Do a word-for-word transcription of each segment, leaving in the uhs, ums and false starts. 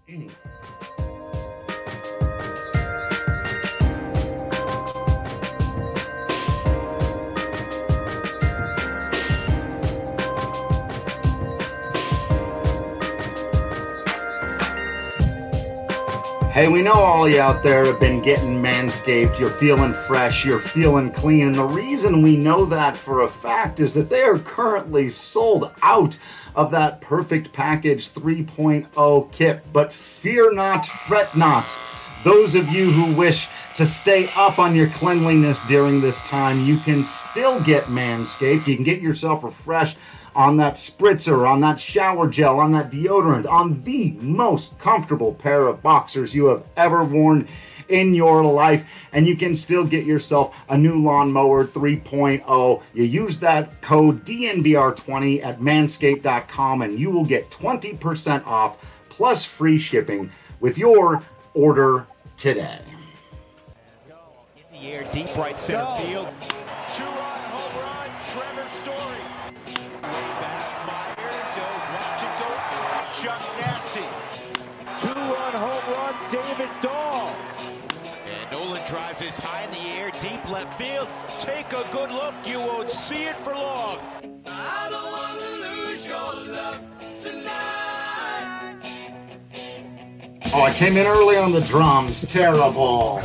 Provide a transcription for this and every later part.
Mm. Hey, we know all you out there have been getting Manscaped. You're feeling fresh, you're feeling clean. And the reason we know that for a fact is that they are currently sold out of that Perfect Package three point oh kit. But fear not, fret not. Those of you who wish to stay up on your cleanliness during this time, you can still get Manscaped. You can get yourself refreshed on that spritzer, on that shower gel, on that deodorant, on the most comfortable pair of boxers you have ever worn in your life, and you can still get yourself a new lawnmower three point oh. You use that code D N V R twenty at manscaped dot com and you will get twenty percent off plus free shipping with your order today. In the air, deep right center Go. field. Two-run home run, Trevor Story. Way back, Myers, he'll watch it go. Chuck Nasty. Two-run home run, David Dahl. And Nolan drives this high in the air, deep left field. Take a good look, you won't see it for long. I don't want to lose your love tonight. Oh, I came in early on the drums. Terrible.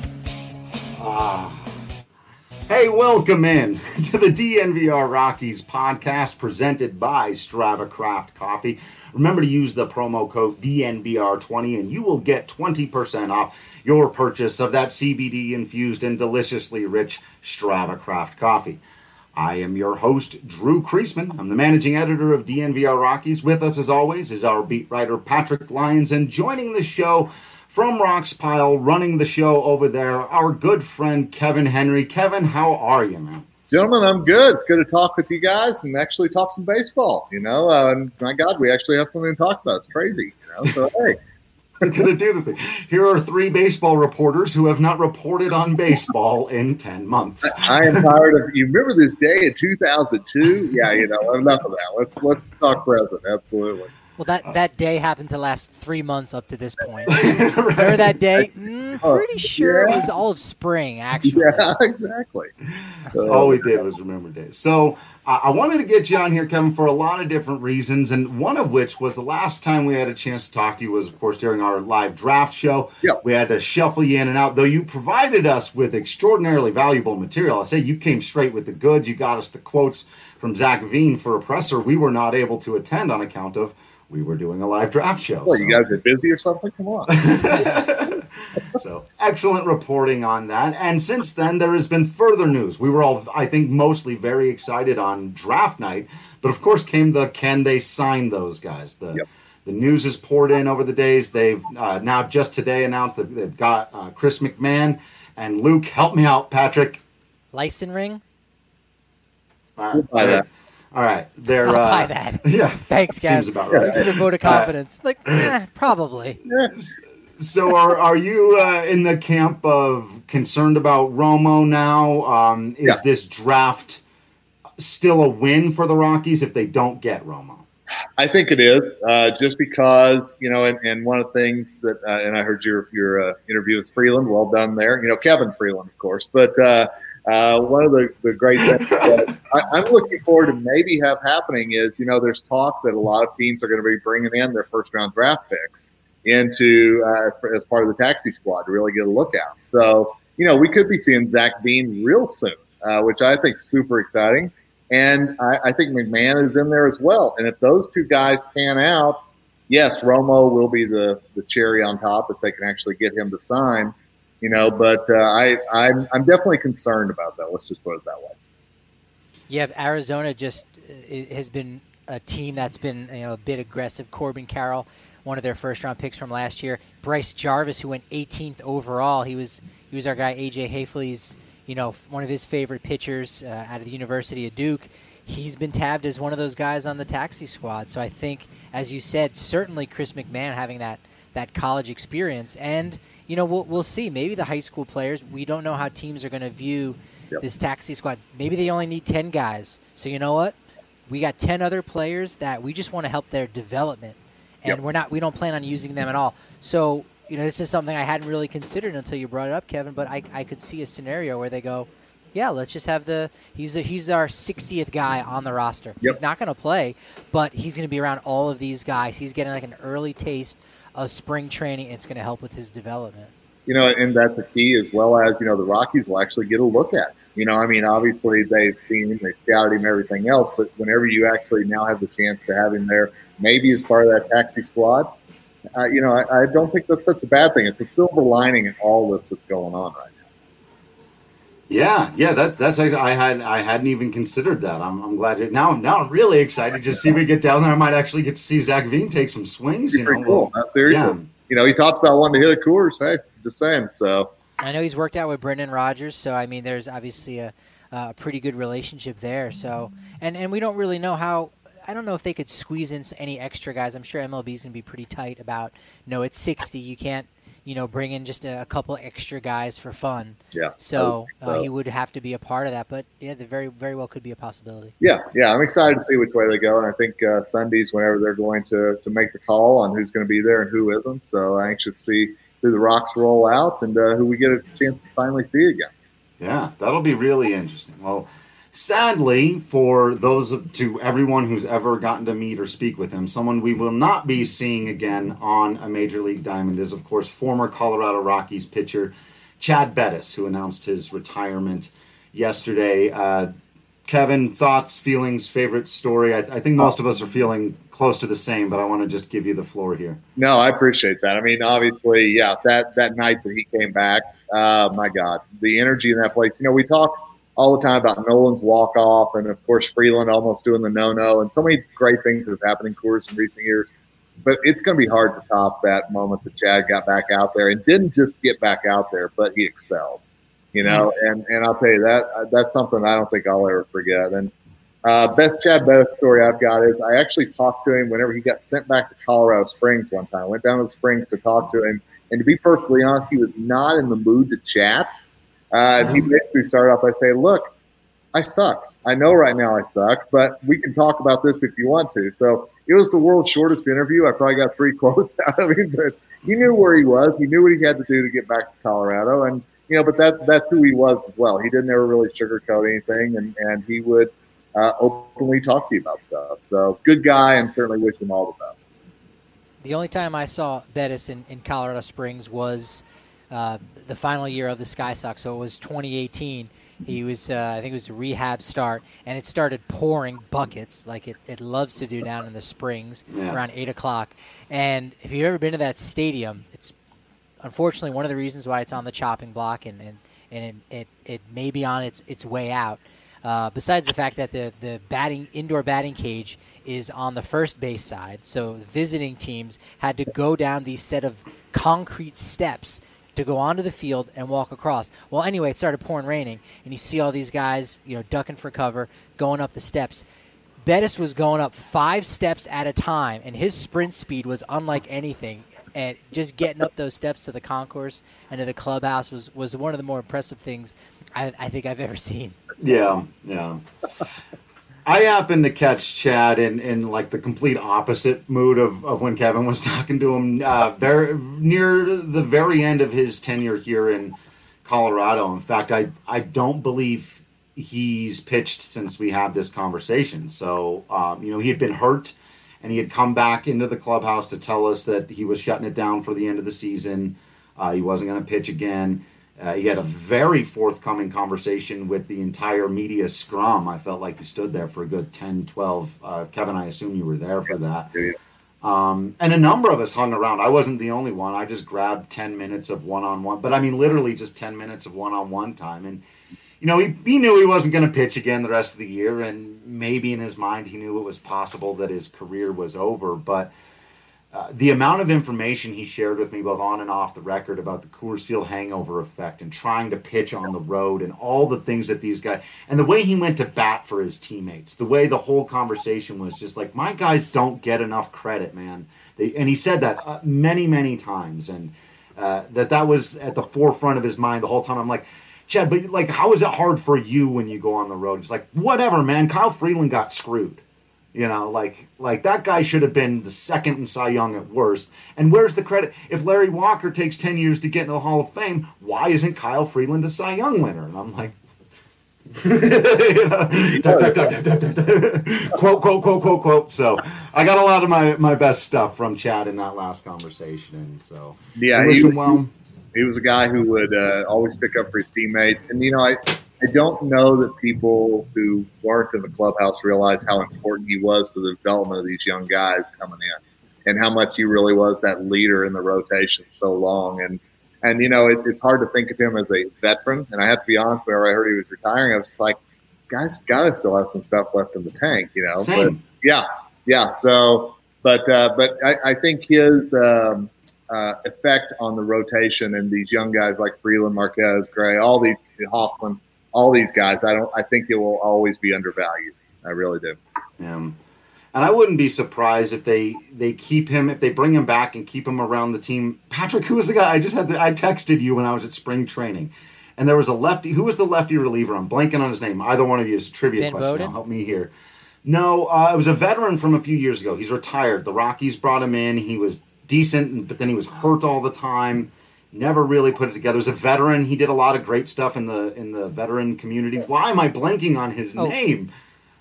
Ah. Hey, welcome in to the D N V R Rockies podcast presented by Strava Craft Coffee. Remember to use the promo code D N V R twenty and you will get twenty percent off your purchase of that C B D-infused and deliciously rich Strava Craft Coffee. I am your host, Drew Kreisman. I'm the managing editor of D N V R Rockies. With us, as always, is our beat writer, Patrick Lyons, and joining the show from Rock's Pile, running the show over there, our good friend, Kevin Henry. Kevin, how are you, man? Gentlemen, I'm good. It's good to talk with you guys and actually talk some baseball, you know. Uh, and my God, we actually have something to talk about. It's crazy, you know. So, hey. We're going to do the thing. Here are three baseball reporters who have not reported on baseball in ten months. I am tired of – you remember this day in two thousand two? Yeah, you know, enough of that. Let's let's talk present. Absolutely. Well, that, that day happened to last three months up to this point. Right. Remember that day? Mm, pretty sure yeah. It was all of spring, actually. Yeah, exactly. That's uh, all we did was remember days. So uh, I wanted to get you on here, Kevin, for a lot of different reasons, and one of which was the last time we had a chance to talk to you was, of course, during our live draft show. Yep. We had to shuffle you in and out, though you provided us with extraordinarily valuable material. I say you came straight with the goods. You got us the quotes from Zach Veen for a presser we were not able to attend on account of we were doing a live draft show. Well, so. You guys are busy or something? Come on. So excellent reporting on that. And since then, there has been further news. We were all, I think, mostly very excited on draft night. But of course came the can they sign those guys? The yep. the news has poured in over the days. They've uh, now just today announced that they've got uh, Chris McMahon and Luke. Help me out, Patrick. License ring? All right. We'll that. All right, they're I'll uh, buy that. Yeah, thanks, guys. Seems about right. Thanks for the vote of confidence. Uh, like, eh, probably. So, are are you uh, in the camp of concerned about Romo now? Um, is yeah. this draft still a win for the Rockies if they don't get Romo? I think it is, uh, just because you know, and, and one of the things that, uh, and I heard your your uh, interview with Freeland. Well done there. You know, Kevin Freeland, of course, but. Uh, Uh, one of the, the great things that I, I'm looking forward to maybe have happening is, you know, there's talk that a lot of teams are going to be bringing in their first round draft picks into uh, as part of the taxi squad to really get a look out. So, you know, we could be seeing Zach Veen real soon, uh, which I think is super exciting. And I, I think McMahon is in there as well. And if those two guys pan out, yes, Romo will be the, the cherry on top if they can actually get him to sign. You know, but uh, I, I'm, I'm definitely concerned about that. Let's just put it that way. Yeah, Arizona just uh, has been a team that's been, you know, a bit aggressive. Corbin Carroll, one of their first-round picks from last year. Bryce Jarvis, who went eighteenth overall. He was he was our guy, A J Hafley's, you know, one of his favorite pitchers uh, out of the University of Duke. He's been tabbed as one of those guys on the taxi squad. So I think, as you said, certainly Chris McMahon having that that college experience and. You know, we'll we'll see. Maybe the high school players, we don't know how teams are going to view yep. this taxi squad. Maybe they only need ten guys. So you know what? We got ten other players that we just want to help their development. and Yep. we're not we don't plan on using them at all. So, you know, this is something I hadn't really considered until you brought it up, Kevin, but I, I could see a scenario where they go, yeah, let's just have the he's the, he's our sixtieth guy on the roster. Yep. He's not going to play, but he's going to be around all of these guys. He's getting like an early taste of spring training. It's going to help with his development. You know, and that's a key, as well as, you know, the Rockies will actually get a look at. You know, I mean, obviously they've seen him, they scouted him, everything else, but whenever you actually now have the chance to have him there, maybe as part of that taxi squad, uh, you know, I, I don't think that's such a bad thing. It's a silver lining in all this that's going on right now. Yeah, yeah, that, that's I had I hadn't even considered that. I'm I'm glad it, now. Now I'm really excited to see if we get down there. I might actually get to see Zach Veen take some swings. You know, Pretty cool. well, Not seriously. yeah. You know, he talked about wanting to hit a Coors. Hey, just saying. So I know he's worked out with Brendan Rodgers, so I mean, there's obviously a, a pretty good relationship there. So, and and we don't really know how. I don't know if they could squeeze in any extra guys. I'm sure M L B is going to be pretty tight about. No, it's sixty. You can't, you know, bring in just a, a couple extra guys for fun. yeah. So, I would Uh, think he would have to be a part of that. But yeah, there very very well could be a possibility. Yeah, yeah, I'm excited to see which way they go, and I think uh, Sundays, whenever they're going to, to make the call on who's going to be there and who isn't. So I'm anxious to see who the Rocks roll out and uh, who we get a chance to finally see again. Yeah, that'll be really interesting. Well, sadly, for those of to everyone who's ever gotten to meet or speak with him, someone we will not be seeing again on a Major League Diamond is, of course, former Colorado Rockies pitcher Chad Bettis, who announced his retirement yesterday. Uh, Kevin, thoughts, feelings, favorite story? I, I think most of us are feeling close to the same, but I want to just give you the floor here. No, I appreciate that. I mean, obviously, yeah, that, that night that he came back, uh, my God, the energy in that place. You know, we talk all the time about Nolan's walk-off and, of course, Freeland almost doing the no-no and so many great things that have happened in Coors in recent years. But it's going to be hard to top that moment that Chad got back out there and didn't just get back out there, but he excelled. You know, and, and I'll tell you that that's something I don't think I'll ever forget. And uh, best Chad Bettis story I've got is I actually talked to him whenever he got sent back to Colorado Springs one time. I went down to the Springs to talk to him, and to be perfectly honest, he was not in the mood to chat. Uh, and he basically started off by saying, "Look, I suck. I know right now I suck, but we can talk about this if you want to." So it was the world's shortest interview. I probably got three quotes out of him, but he knew where he was. He knew what he had to do to get back to Colorado, and you know, but that that's who he was as well. He didn't ever really sugarcoat anything, and, and he would uh, openly talk to you about stuff. So good guy, and certainly wish him all the best. The only time I saw Bettis in, in Colorado Springs was uh, the final year of the Sky Sox. So it was twenty eighteen. He was, uh, I think it was a rehab start, and it started pouring buckets like it, it loves to do down in the Springs Yeah. around eight o'clock. And if you've ever been to that stadium, it's unfortunately one of the reasons why it's on the chopping block and, and, and it, it, it may be on its, its way out. Uh, besides the fact that the, the batting indoor batting cage is on the first base side, so visiting teams had to go down these set of concrete steps to go onto the field and walk across. Well, anyway, it started pouring raining, and you see all these guys, you know, ducking for cover, going up the steps. Bettis was going up five steps at a time, and his sprint speed was unlike anything. And just getting up those steps to the concourse and to the clubhouse was, was one of the more impressive things I, I think I've ever seen. Yeah, yeah. I happened to catch Chad in, in like the complete opposite mood of, of when Kevin was talking to him uh, very, near the very end of his tenure here in Colorado. In fact, I, I don't believe he's pitched since we had this conversation. So, um, you know, he had been hurt, and he had come back into the clubhouse to tell us that he was shutting it down for the end of the season. Uh, he wasn't going to pitch again. Uh, he had a very forthcoming conversation with the entire media scrum. I felt like he stood there for a good ten, twelve. Uh, Kevin, I assume you were there for that. Um, and a number of us hung around. I wasn't the only one. I just grabbed ten minutes of one-on-one. But, I mean, literally just ten minutes of one-on-one time. And, you know, he, he knew he wasn't going to pitch again the rest of the year. And maybe in his mind he knew it was possible that his career was over. But Uh, the amount of information he shared with me, both on and off the record, about the Coors Field hangover effect and trying to pitch on the road and all the things that these guys, and the way he went to bat for his teammates, the way the whole conversation was just like, my guys don't get enough credit, man. They, and he said that uh, many, many times, and uh, that that was at the forefront of his mind the whole time. I'm like, Chad, but like, how is it hard for you when you go on the road? It's like, whatever, man. Kyle Freeland got screwed. You know, like like that guy should have been the second in Cy Young at worst. And where's the credit? If Larry Walker takes ten years to get into the Hall of Fame, why isn't Kyle Freeland a Cy Young winner? And I'm like, you know, duck, duck, duck, duck, duck, duck. quote, quote, quote, quote, quote. So I got a lot of my, my best stuff from Chad in that last conversation. And so, yeah, he, was, well. he was a guy who would uh, always stick up for his teammates. And, you know, I, I don't know that people who weren't in the clubhouse realize how important he was to the development of these young guys coming in and how much he really was that leader in the rotation so long. And, And, you know, it, it's hard to think of him as a veteran. And I have to be honest, whenever I heard he was retiring, I was just like, guys, got to still have some stuff left in the tank, you know. Same. But, yeah, yeah. So, but uh, but I, I think his um, uh, effect on the rotation and these young guys like Freeland, Marquez, Gray, all these, Hoffman, all these guys, I don't. I think it will always be undervalued. I really do. Yeah. And I wouldn't be surprised if they, they keep him, if they bring him back and keep him around the team. Patrick, who was the guy? I just had the, I texted you when I was at spring training. And there was a lefty. Who was the lefty reliever? I'm blanking on his name. Either one of you is a trivia Ben question. Bowden? Help me here. No, uh, it was a veteran from a few years ago. He's retired. The Rockies brought him in. He was decent, but then he was hurt all the time. Never really put it together. He was a veteran. He did a lot of great stuff in the in the veteran community. Why am I blanking on his Oh. name?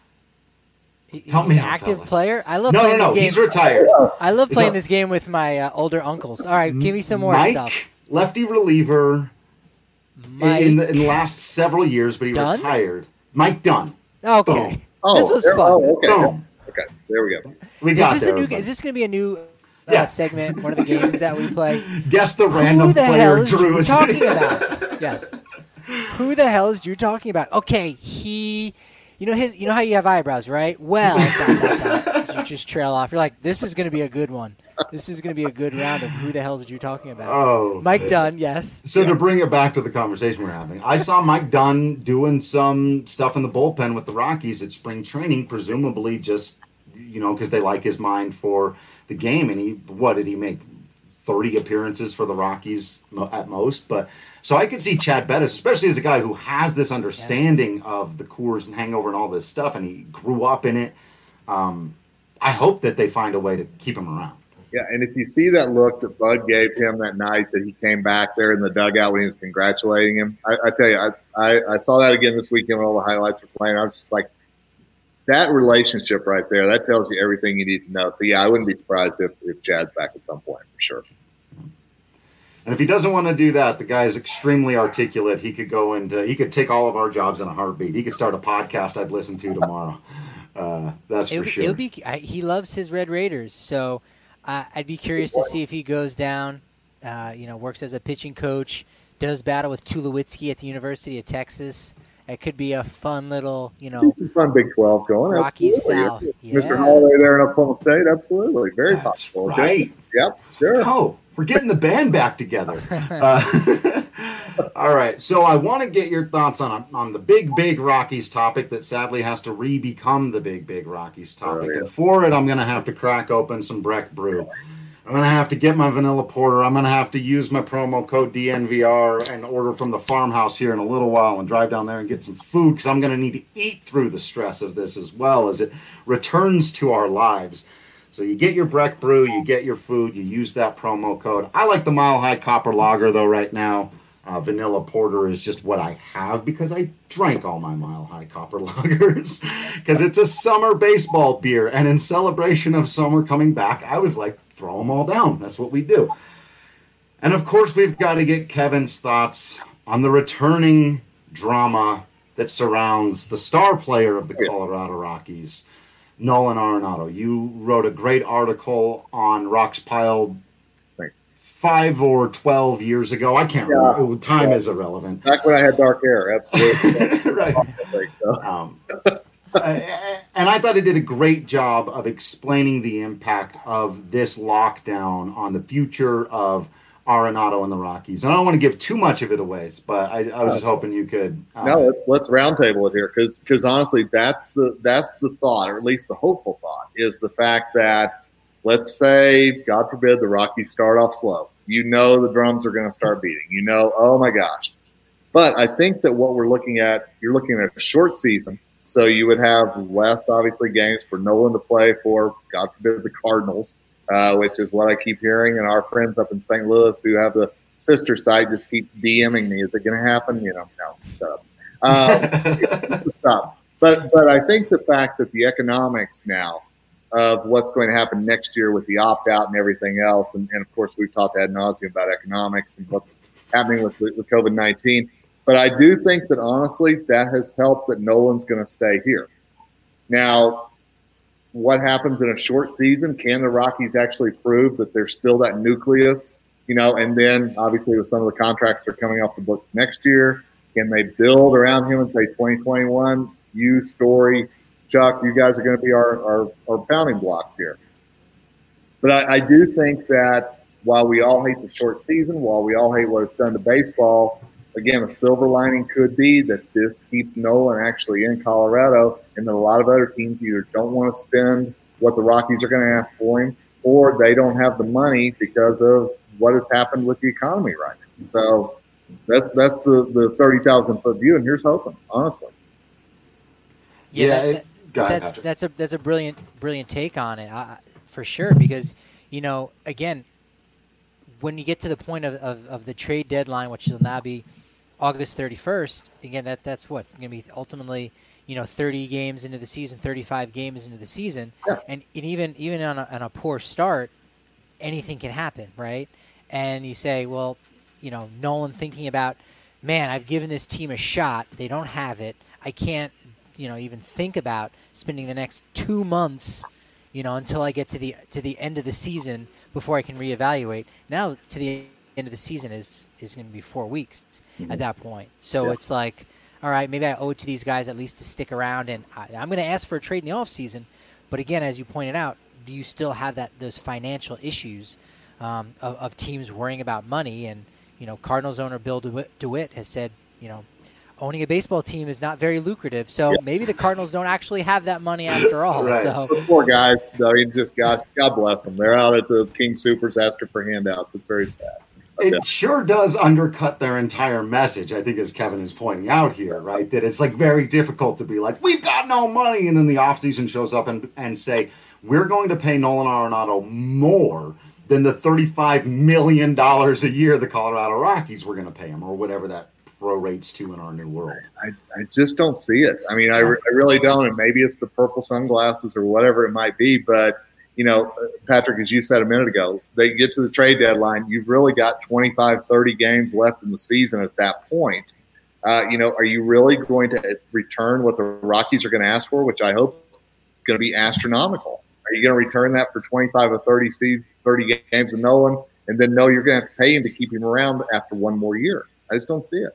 He's Help me an out, active fellas. player. I love No, no, playing no. this game. He's retired. I love Is playing that- this game with my uh, older uncles. All right, give me some more Mike, stuff. lefty reliever Mike. in, the, in the last several years, but he Dunn? retired. Mike Dunn. Okay. Boom. Oh, This was there- fun. Oh, okay. Boom. Okay, there we go. We Is got this there. a new? everybody. Is this going to be a new uh, Yeah. segment? One of the games that we play. Guess the random Who the player hell is Drew Drew is talking about? Yes. Who the hell is Drew talking about? Okay, he. You know his. You know how you have eyebrows, right? Well, dot, dot, dot, you just trail off. You're like, this is going to be a good one. This is going to be a good round of who the hell is Drew talking about? Oh, Mike man. Dunn, yes. So to bring it back to the conversation we're having, I saw Mike Dunn doing some stuff in the bullpen with the Rockies at spring training, presumably just, you know, because they like his mind for the game. And he, what did he make? thirty appearances for the Rockies mo- at most. But so I could see Chad Bettis, especially as a guy who has this understanding of the Coors and hangover and all this stuff, and he grew up in it. Um, I hope that they find a way to keep him around. Yeah, and if you see that look that Bud gave him that night that he came back there in the dugout when he was congratulating him, I, I tell you, I, I, I saw that again this weekend when all the highlights were playing. I was just like, that relationship right there, that tells you everything you need to know. So, yeah, I wouldn't be surprised if, if Chad's back at some point, for sure. And if he doesn't want to do that, the guy is extremely articulate. He could go into, he could take all of our jobs in a heartbeat. He could start a podcast I'd listen to tomorrow. Uh, that's It, for sure. It'll be. I, he loves his Red Raiders, so uh, I'd be curious to see if he goes down. Uh, you know, works as a pitching coach, does battle with Tulowitzki at the University of Texas. It could be a fun little, you know, Some fun Big twelve going. Rockies Absolutely. South. Mister Yeah. Holloway there in Oklahoma State, absolutely. Very That's possible. right. Yep, Let's sure. go. We're getting the band back together. Uh, all right. So I want to get your thoughts on on the big, big Rockies topic that sadly has to re-become the big, big Rockies topic. Oh, yeah. And for it, I'm going to have to crack open some Breck Brew. I'm going to have to get my vanilla porter. I'm going to have to use my promo code D N V R and order from the farmhouse here in a little while and drive down there and get some food because I'm going to need to eat through the stress of this as well as it returns to our lives. So you get your Breck Brew, you get your food, you use that promo code. I like the Mile High Copper Lager, though, right now. Uh, vanilla Porter is just what I have because I drank all my Mile High Copper Lagers because it's a summer baseball beer. And in celebration of summer coming back, I was like, throw them all down. That's what we do. And, of course, we've got to get Kevin's thoughts on the returning drama that surrounds the star player of the Colorado Rockies, Nolan Arenado. You wrote a great article on Rocks Piled Thanks. five or twelve years ago. I can't Yeah. remember. Time is irrelevant. Back when I had dark hair, absolutely. Right. So, Um, uh, and I thought it did a great job of explaining the impact of this lockdown on the future of Arenado and the Rockies. And I don't want to give too much of it away, but I, I was just hoping you could. Uh, no, let's, let's roundtable it here because because honestly, that's the that's the thought, or at least the hopeful thought, is the fact that let's say, God forbid, the Rockies start off slow. You know the drums are going to start beating. You know, oh my gosh. But I think that what we're looking at, you're looking at a short season. So you would have less, obviously, games for Nolan to play for, God forbid, the Cardinals, uh, which is what I keep hearing. And our friends up in Saint Louis who have the sister site just keep DMing me. Is it going to happen? You know, no, shut up. Um, stop. But, but I think the fact that the economics now of what's going to happen next year with the opt-out and everything else, and, and of course we've talked ad nauseum about economics and what's happening with, with COVID nineteen. But I do think that, honestly, that has helped that Nolan's going to stay here. Now, what happens in a short season? Can the Rockies actually prove that there's still that nucleus? You know, and then, obviously, with some of the contracts that are coming off the books next year, can they build around him and say twenty twenty-one, you, Story, Chuck, you guys are going to be our, our, our pounding blocks here? But I, I do think that while we all hate the short season, while we all hate what it's done to baseball, again, a silver lining could be that this keeps Nolan actually in Colorado, and that a lot of other teams either don't want to spend what the Rockies are going to ask for him, or they don't have the money because of what has happened with the economy right now. So that's that's the, the thirty thousand foot view, and here's hoping, honestly. Yeah, yeah that, it, go ahead, that, that's a that's a brilliant brilliant take on it, uh, for sure. Because you know, again, when you get to the point of, of, of the trade deadline, which will now be August thirty-first, again, that that's what going to be ultimately, you know, thirty games into the season, thirty-five games into the season, yeah. and, and even even on a, on a poor start, anything can happen, right? And you say, well, you know, Nolan thinking about, man, I've given this team a shot. They don't have it. I can't, you know, even think about spending the next two months, you know, until I get to the to the end of the season before I can reevaluate. Now to the end of the season is is going to be four weeks mm-hmm. at that point. So yeah. It's like, all right, maybe I owe it to these guys at least to stick around, and I, I'm going to ask for a trade in the off season. But again, as you pointed out, do you still have that those financial issues um, of, of teams worrying about money? And you know, Cardinals owner Bill DeWitt, DeWitt has said, you know, owning a baseball team is not very lucrative. So yeah. maybe the Cardinals don't actually have that money after all. Right. So the poor guys, I mean, just God, God bless them. They're out at the King Supers asking for handouts. It's very sad. It yeah. sure does undercut their entire message, I think, as Kevin is pointing out here, right? That it's like very difficult to be like, we've got no money. And then the offseason shows up and, and say, we're going to pay Nolan Arenado more than the thirty-five million dollars a year the Colorado Rockies were going to pay him, or whatever that prorates to in our new world. I, I just don't see it. I mean, I, re- I really don't. And maybe it's the purple sunglasses or whatever it might be. But, you know, Patrick, as you said a minute ago, they get to the trade deadline. You've really got twenty-five, thirty games left in the season at that point. Uh, you know, are you really going to return what the Rockies are going to ask for, which I hope is going to be astronomical? Are you going to return that for twenty-five or thirty seasons, thirty games of Nolan, and then know you're going to have to pay him to keep him around after one more year? I just don't see it.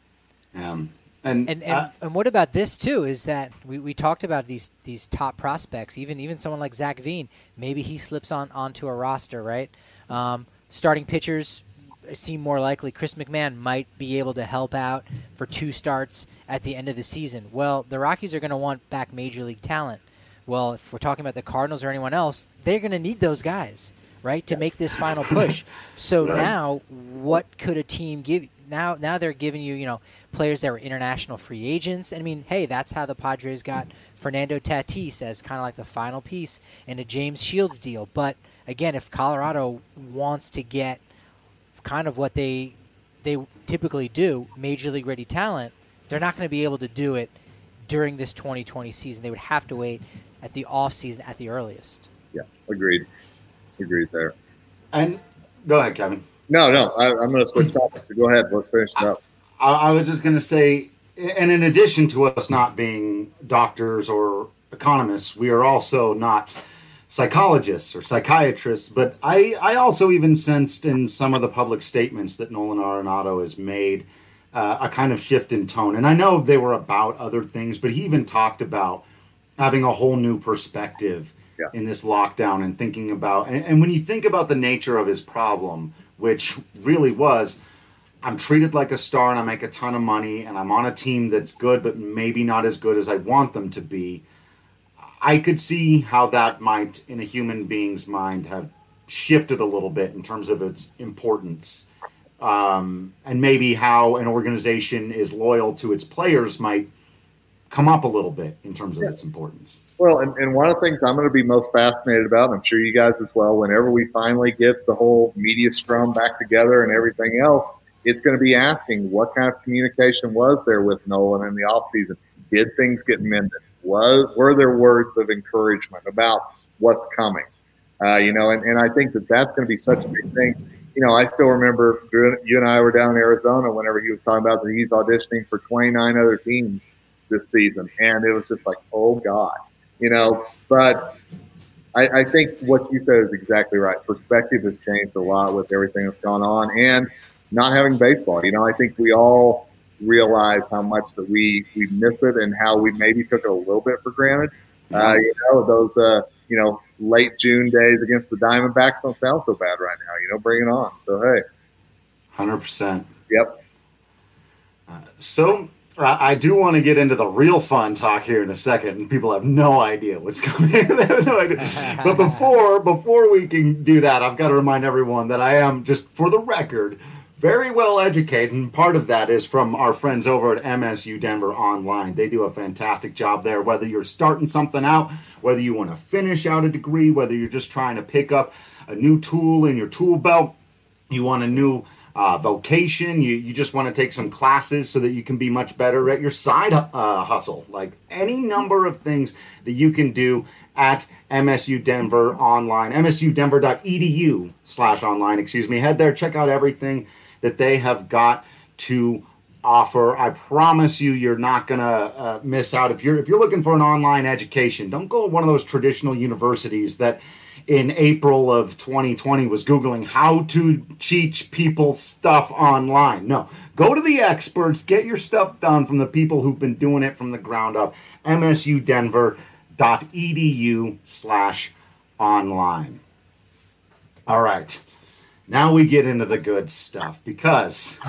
Um, and, and, and, uh, and what about this too? Is that we, we talked about these these top prospects, even even someone like Zach Veen, maybe he slips on onto a roster, right? Um, starting pitchers seem more likely. Chris McMahon might be able to help out for two starts at the end of the season. Well, the Rockies are going to want back major league talent. Well, if we're talking about the Cardinals or anyone else, they're going to need those guys, right, to make this final push. So right. now, what could a team give? Now, now they're giving you, you know, players that were international free agents. I mean, hey, that's how the Padres got Fernando Tatis as kind of like the final piece in a James Shields deal. But again, if Colorado wants to get kind of what they they typically do, major league ready talent, they're not going to be able to do it during this twenty twenty season. They would have to wait at the off season at the earliest. Yeah, agreed. Agreed there. And go ahead, Kevin. No, no, I, I'm going to switch topics. So go ahead. Let's finish it up. I, I was just going to say, and in addition to us not being doctors or economists, we are also not psychologists or psychiatrists. But I, I also even sensed in some of the public statements that Nolan Arenado has made uh, a kind of shift in tone. And I know they were about other things, but he even talked about having a whole new perspective yeah. in this lockdown and thinking about, and, and when you think about the nature of his problem, which really was, I'm treated like a star and I make a ton of money and I'm on a team that's good, but maybe not as good as I want them to be. I could see how that might, in a human being's mind, have shifted a little bit in terms of its importance. Um, and maybe how an organization is loyal to its players might come up a little bit in terms of its importance. Well, and, and one of the things I'm going to be most fascinated about, and I'm sure you guys as well, whenever we finally get the whole media scrum back together and everything else, it's going to be asking what kind of communication was there with Nolan in the offseason? Did things get mended? Was, were there words of encouragement about what's coming? Uh, you know, and, and I think that that's going to be such a big thing. You know, I still remember you and I were down in Arizona whenever he was talking about that he's auditioning for twenty-nine other teams this season. And it was just like, oh, God, you know, but I, I think what you said is exactly right. Perspective has changed a lot with everything that's gone on and not having baseball. You know, I think we all realize how much that we, we miss it and how we maybe took it a little bit for granted. Uh, you know, those, uh, you know, late June days against the Diamondbacks don't sound so bad right now. You know, bring it on. So, hey. one hundred percent. Yep. Uh, so I do want to get into the real fun talk here in a second, and people have no idea what's coming. They have no idea. But before before we can do that, I've got to remind everyone that I am, just for the record, very well educated, and part of that is from our friends over at M S U Denver Online. They do a fantastic job there, whether you're starting something out, whether you want to finish out a degree, whether you're just trying to pick up a new tool in your tool belt, you want a new Uh, vocation, you, you just want to take some classes so that you can be much better at your side uh, hustle. Like any number of things that you can do at M S U Denver Online, M S U Denver dot E D U slash online, excuse me. Head there, check out everything that they have got to offer. I promise you, you're not going to uh, miss out. If you're, if you're looking for an online education, don't go to one of those traditional universities that in April of twenty twenty was Googling how to teach people stuff online. No, go to the experts, get your stuff done from the people who've been doing it from the ground up. M S U Denver dot E D U slash online. All right, now we get into the good stuff because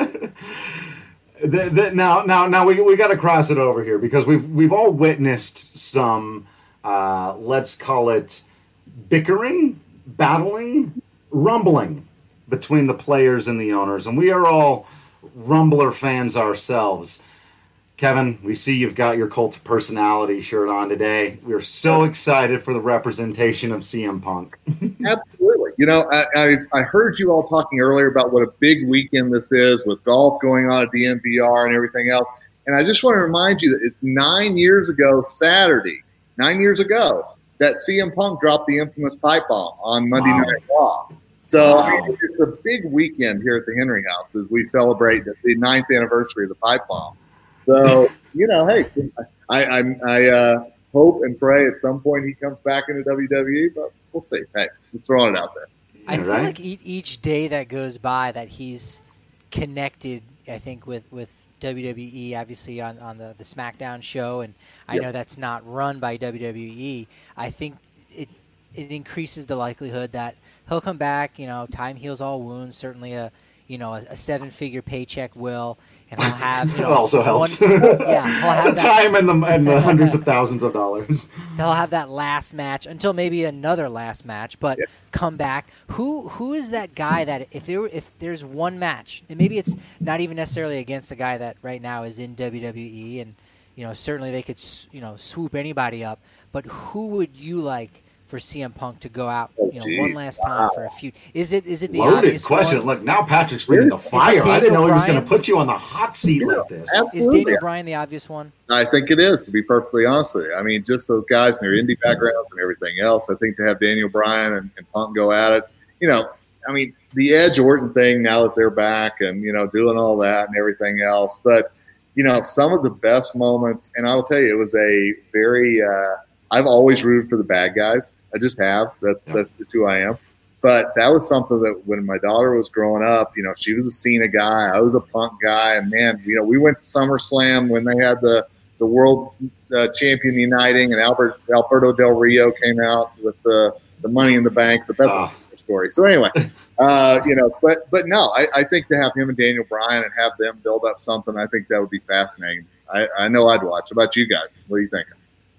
the, the, now, now, now we we got to cross it over here because we've we've all witnessed some, uh, let's call it, bickering, battling, rumbling between the players and the owners. And we are all Rumbler fans ourselves. Kevin, we see you've got your Cult of Personality shirt on today. We're so excited for the representation of C M Punk. Absolutely. You know, I, I, I heard you all talking earlier about what a big weekend this is with golf going on at the N V R and everything else. And I just want to remind you that it's nine years ago Saturday, nine years ago, that C M Punk dropped the infamous pipe bomb on Monday Wow. Night Raw. So Wow. I mean, it's a big weekend here at the Henry House as we celebrate the, the ninth anniversary of the pipe bomb. So, you know, hey, I I, I uh, hope and pray at some point he comes back into W W E, but we'll see. Hey, just throwing it out there. I feel right? like e- each day that goes by that he's connected, I think, with, with W W E, obviously on, on the, the SmackDown show, and I Yep. know that's not run by W W E. I think it it increases the likelihood that he'll come back. You know, time heals all wounds. Certainly a you know a, a seven figure paycheck will, and he'll have you know, It also helps. One, yeah, he'll have the that, time and the, and the hundreds of thousands of dollars. They'll have that last match until maybe another last match, but Yeah. come back. Who who is that guy that if there if there's one match, and maybe it's not even necessarily against a guy that right now is in W W E, and you know certainly they could you know swoop anybody up, but who would you like for C M Punk to go out you know geez, one last time wow. for a feud? Is it is it the Loaded obvious question. one? Look, now Patrick's bringing the fire. I Daniel didn't know he was going Bryan? to put you on the hot seat Yeah, like this. absolutely. Is Daniel Bryan the obvious one? I think it is, to be perfectly honest with you. I mean, just those guys and their indie backgrounds and everything else. I think to have Daniel Bryan and, and Punk go at it, you know, I mean, the Edge Orton thing now that they're back and, you know, doing all that and everything else. But, you know, some of the best moments, and I will tell you, it was a very, uh, I've always rooted for the bad guys. I just have. That's, Yep. that's just who I am. But that was something that when my daughter was growing up, you know, she was a Cena guy. I was a Punk guy. And, man, you know, we went to SummerSlam when they had the, the world uh, champion uniting, and Albert Alberto Del Rio came out with the, the Money in the Bank. But that's Ah. a story. So, anyway, uh, you know, but but no, I, I think to have him and Daniel Bryan and have them build up something, I think that would be fascinating. I, I know I'd watch. How about you guys? What are you thinking?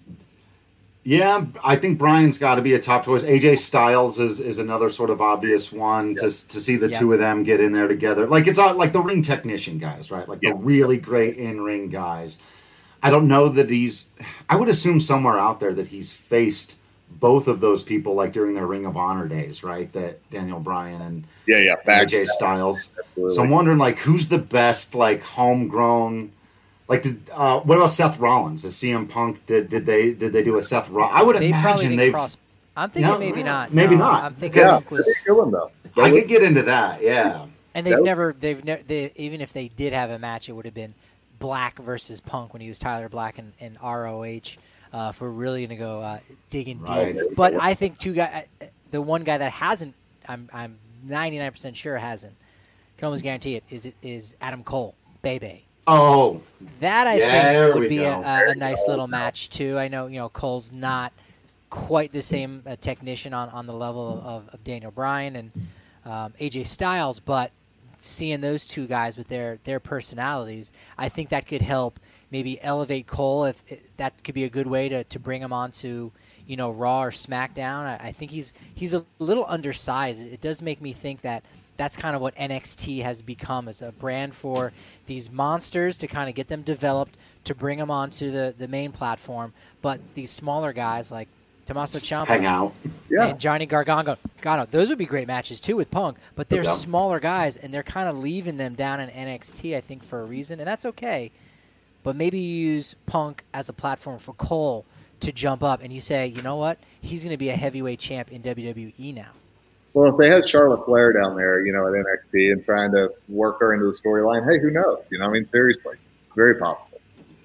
Yeah, I think Bryan's got to be a top choice. A J Styles is, is another sort of obvious one to to see the Yeah. two of them get in there together. Like it's not like the ring technician guys, right? Like Yeah. the really great in ring guys. I don't know that he's. I would assume somewhere out there that he's faced both of those people, like during their Ring of Honor days, right? That Daniel Bryan and yeah, yeah, and A J Styles. Absolutely. So I'm wondering, like, who's the best, like, homegrown. Like, did, uh, what about Seth Rollins? Is C M Punk? Did did they did they do a Seth Rollins? I would they imagine they've. Cross- I'm thinking no, maybe not. Maybe no, not. I'm thinking yeah, Punk was. Killing, though. I could get into that. Yeah. And they've never. They've never. They, even if they did have a match, it would have been Black versus Punk when he was Tyler Black and, and R O H. Uh, if we're really going to go uh, digging right. deep, but I think two guy, the one guy that hasn't, I'm I'm ninety-nine percent sure hasn't, can almost guarantee it, is is Adam Cole, Bebe. Oh, that I yeah, think would be a, a, a nice little match too. I know you know Cole's not quite the same uh, technician on, on the level of, of Daniel Bryan and um, A J Styles, but seeing those two guys with their their personalities, I think that could help. Maybe elevate Cole, if, if that could be a good way to, to bring him onto, you know, Raw or SmackDown. I, I think he's he's a little undersized. It does make me think that that's kind of what N X T has become, as a brand for these monsters to kind of get them developed, to bring them onto the, the main platform. But these smaller guys like Tommaso Ciampa hang out. Yeah. and Johnny Gargano, Gargano, those would be great matches too with Punk. But they're Yeah. smaller guys, and they're kind of leaving them down in N X T, I think, for a reason, and that's okay. But maybe you use Punk as a platform for Cole to jump up, and you say, you know what, he's going to be a heavyweight champ in W W E now. Well, if they had Charlotte Flair down there, you know, at N X T and trying to work her into the storyline, hey, who knows? You know, I mean, seriously, very possible.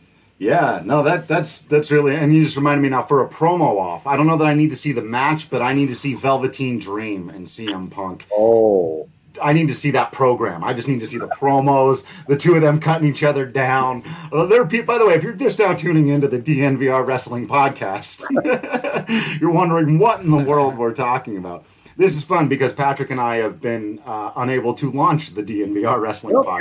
Yeah, no, that that's that's really, and you just reminded me now for a promo off. I don't know that I need to see the match, but I need to see Velveteen Dream and C M Punk. Oh. I need to see that program. I just need to see the promos, the two of them cutting each other down. Uh, there are people, by the way, if you're just now tuning into the D N V R Wrestling Podcast, you're wondering what in the world we're talking about. This is fun because Patrick and I have been uh, unable to launch the D N V R Wrestling Oh,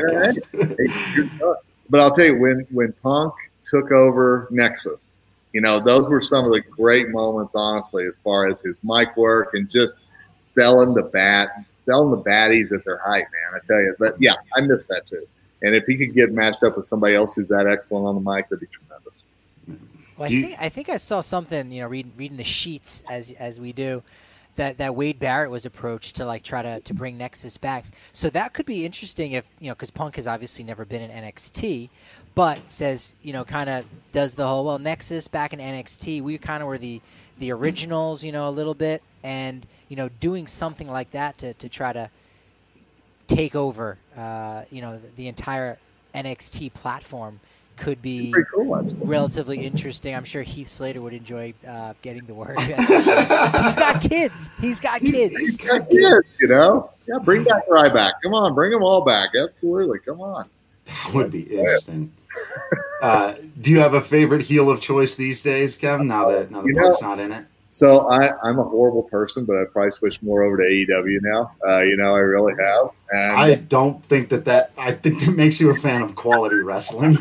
Podcast. But I'll tell you, when, when Punk took over Nexus, you know, those were some of the great moments, honestly, as far as his mic work and just selling the bat. Selling the baddies at their height, man. I tell you. But, yeah, I miss that too. And if he could get matched up with somebody else who's that excellent on the mic, that'd be tremendous. Well, I think I think I saw something, you know, reading reading the sheets as as we do, that, that Wade Barrett was approached to like try to, to bring Nexus back. So that could be interesting if, you know, because Punk has obviously never been in N X T, but says, you know, kind of does the whole, well, Nexus back in N X T, we kind of were the, the originals, you know, a little bit, and you know, doing something like that to, to try to take over, uh, you know, the, the entire N X T platform could be cool, relatively interesting. I'm sure Heath Slater would enjoy uh, getting the word. He's got kids. He's got kids. He's got kids, you know? Yeah, bring back Ryback. Come on, bring them all back. Absolutely. Come on. That would be interesting. uh, do you have a favorite heel of choice these days, Kevin, now that, now that Punk's not in it? So I, I'm a horrible person, but I probably switched more over to A E W now. Uh, you know, I really have. And I don't think that that – I think that makes you a fan of quality wrestling.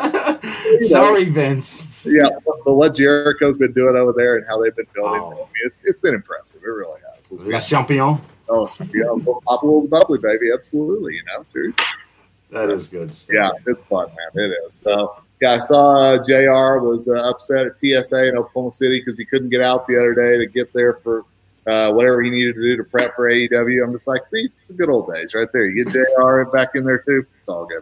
Sorry, Vince. Yeah, but what Jericho's been doing over there and how they've been building, Oh. I mean, it's, it's been impressive. It really has. It's La Champion. Oh, yeah, pop a little bubbly, baby. Absolutely, you know, seriously. That is good stuff. Yeah, it's fun, man. It is. So, yeah, I saw uh, J R was uh, upset at T S A in Oklahoma City because he couldn't get out the other day to get there for uh, whatever he needed to do to prep for A E W. I'm just like, see, it's the good old days right there. You get J R back in there, too. It's all good.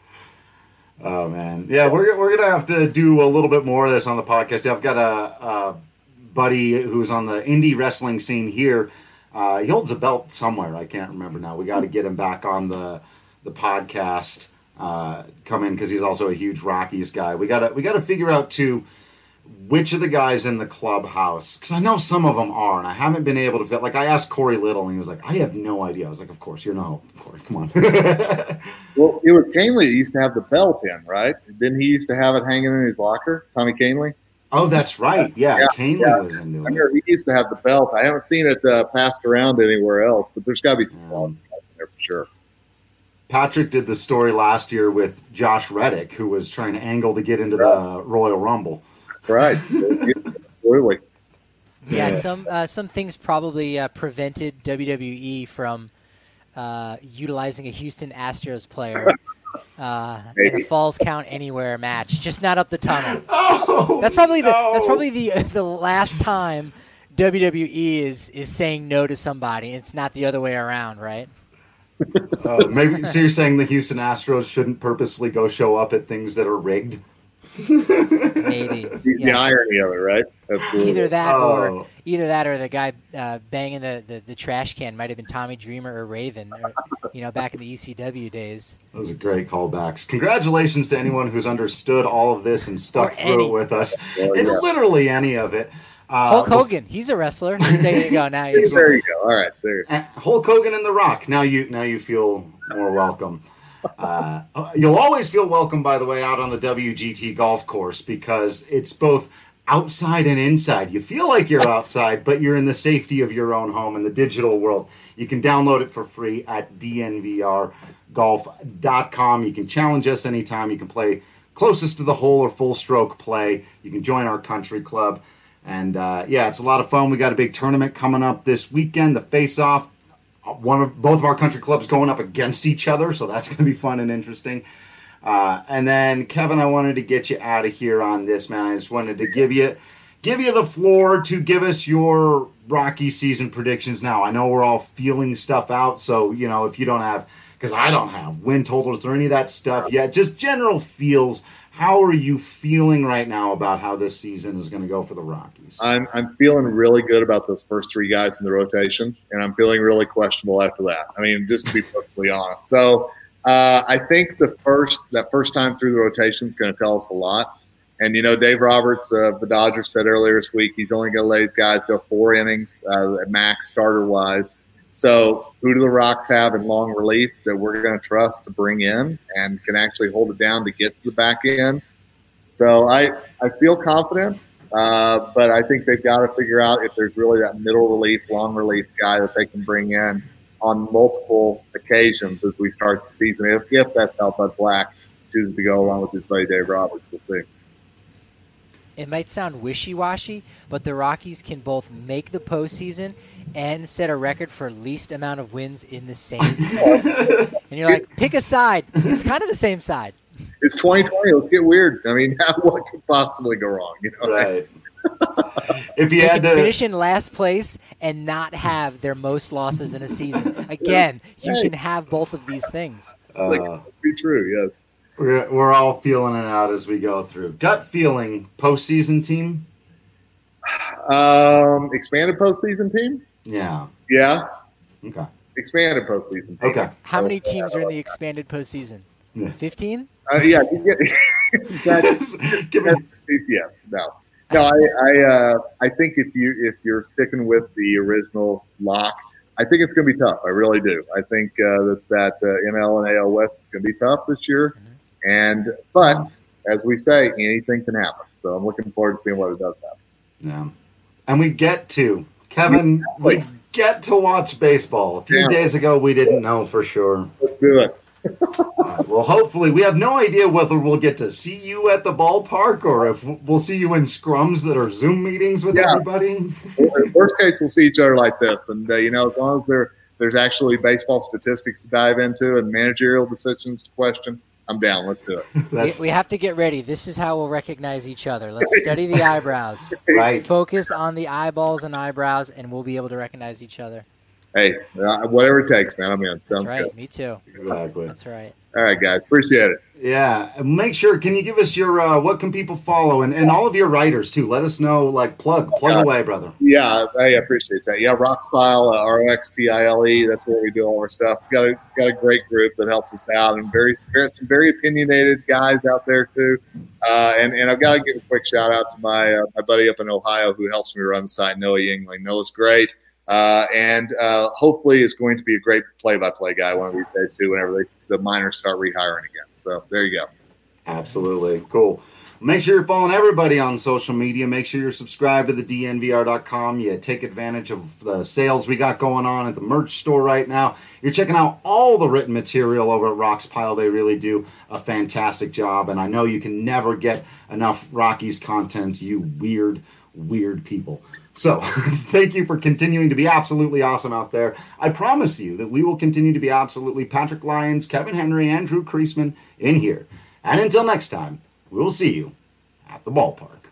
Oh, man. Yeah, we're, we're going to have to do a little bit more of this on the podcast. I've got a, a buddy who's on the indie wrestling scene here. Uh, he holds a belt somewhere. I can't remember now. We got to get him back on the the podcast. Uh, come in because he's also a huge Rockies guy. We got to we got to figure out too which of the guys in the clubhouse, because I know some of them are, and I haven't been able to fit. Like I asked Corey Little, and he was like, "I have no idea." I was like, "Of course, you're not Corey. Come on." Well, it was Canely that used to have the belt in, right? Didn't he used to have it hanging in his locker? Tommy Canely. Oh, that's right. Yeah, Yeah, Canely yeah. was into I it. remember he used to have the belt. I haven't seen it uh, passed around anywhere else, but there's got to be some quality guys in there for sure. Patrick did the story last year with Josh Reddick, who was trying to angle to get into the Royal Rumble. Right. Absolutely. Yeah, Yeah. some uh, some things probably uh, prevented W W E from uh, utilizing a Houston Astros player uh, in a Falls Count Anywhere match, just not up the tunnel. Oh, that's probably the no. that's probably the the last time W W E is is saying no to somebody. It's not the other way around, right? Uh, maybe so. You're saying the Houston Astros shouldn't purposefully go show up at things that are rigged? Maybe The, yeah. the irony of it, right? Absolutely. Either that Oh. or either that or the guy uh, banging the, the, the trash can might have been Tommy Dreamer or Raven, or, you know, back in the E C W days. Those are great callbacks. Congratulations to anyone who's understood all of this and stuck Or through any. it with us. Oh, And yeah. literally any of it. Uh, Hulk Hogan, he's a wrestler. There you go. Now you There you go. All right, there. Uh, Hulk Hogan and The Rock. Now you now you feel more welcome. Uh, you'll always feel welcome, by the way, out on the W G T golf course because it's both outside and inside. You feel like you're outside, but you're in the safety of your own home in the digital world. You can download it for free at D N V R golf dot com. You can challenge us anytime. You can play closest to the hole or full stroke play. You can join our country club. And, uh, yeah, it's a lot of fun. We got a big tournament coming up this weekend, the Face-Off. One of both of our country clubs going up against each other, so that's going to be fun and interesting. Uh, and then, Kevin, I wanted to get you out of here on this, man. I just wanted to give you give you the floor to give us your Rocky season predictions now. I know we're all feeling stuff out, so, you know, if you don't have, because I don't have win totals or any of that stuff yet, just general feels. How are you feeling right now about how this season is going to go for the Rockies? I'm I'm feeling really good about those first three guys in the rotation, and I'm feeling really questionable after that. I mean, just to be perfectly honest. So uh, I think the first that first time through the rotation is going to tell us a lot. And you know, Dave Roberts of the Dodgers said earlier this week he's only going to let his guys go four innings uh, at max starter wise. So who do the Rocks have in long relief that we're going to trust to bring in and can actually hold it down to get to the back end? So I, I feel confident, uh, but I think they've got to figure out if there's really that middle relief, long relief guy that they can bring in on multiple occasions as we start the season. If, if that's how Bud Black chooses to go along with his buddy Dave Roberts, we'll see. It might sound wishy-washy, but the Rockies can both make the postseason and set a record for least amount of wins in the same season. And you're like, pick a side. It's kind of the same side. It's twenty twenty. Let's get weird. I mean, what could possibly go wrong? You know? Right. If you They had can to finish in last place and not have their most losses in a season. Again, you can have both of these things. Like, uh, be true, yes. we're, we're all feeling it out as we go through. Gut feeling, postseason team? Um, expanded postseason team? Yeah. Yeah, Okay. expanded postseason team. Okay. How many teams are in the expanded postseason? Yeah. fifteen? Uh, yeah, you get, that's, Give me, yes, no. No, I I, uh, I think if you if you're sticking with the original lock, I think it's going to be tough. I really do. I think uh, that that uh, N L and A L West is going to be tough this year, Mm-hmm. and but as we say, anything can happen. So I'm looking forward to seeing what it does happen. yeah. And we get to, Kevin, we get to watch baseball. A few Yeah. days ago, we didn't know for sure. Let's do it. All right, well, hopefully, we have no idea whether we'll get to see you at the ballpark or if we'll see you in scrums that are Zoom meetings with Yeah. everybody. Worst case, we'll see each other like this, and uh, you know, as long as there there's actually baseball statistics to dive into and managerial decisions to question, I'm down. Let's do it. We, That's we have to get ready. This is how we'll recognize each other. Let's study the eyebrows. right. Focus on the eyeballs and eyebrows, and we'll be able to recognize each other. Hey, uh, whatever it takes, man. I'm in. That's Sounds right. good. Me too. Exactly. That's right. All right, guys. Appreciate it. Yeah. And make sure, can you give us your, uh, what can people follow? And, and all of your writers, too. Let us know, like, plug, plug Yeah. away, brother. Yeah, I appreciate that. Yeah, Roxpile, uh, R O X P I L E. That's where we do all our stuff. Got a got a great group that helps us out, and very, very some very opinionated guys out there too. Uh, and and I've got to give a quick shout out to my uh, my buddy up in Ohio who helps me run the site, Noah Yingling. Noah's great, uh, and uh, hopefully is going to be a great play-by-play guy one of these days too. Whenever they the miners start rehiring again. So there you go. Absolutely. Cool. Make sure you're following everybody on social media. Make sure you're subscribed to the D N V R dot com. You take advantage of the sales we got going on at the merch store right now. You're checking out all the written material over at Roxpile. They really do a fantastic job. And I know you can never get enough Rockies content, you weird, weird people. So thank you for continuing to be absolutely awesome out there. I promise you that we will continue to be absolutely Patrick Lyons, Kevin Henry, and Drew Creasman in here. And until next time, we will see you at the ballpark.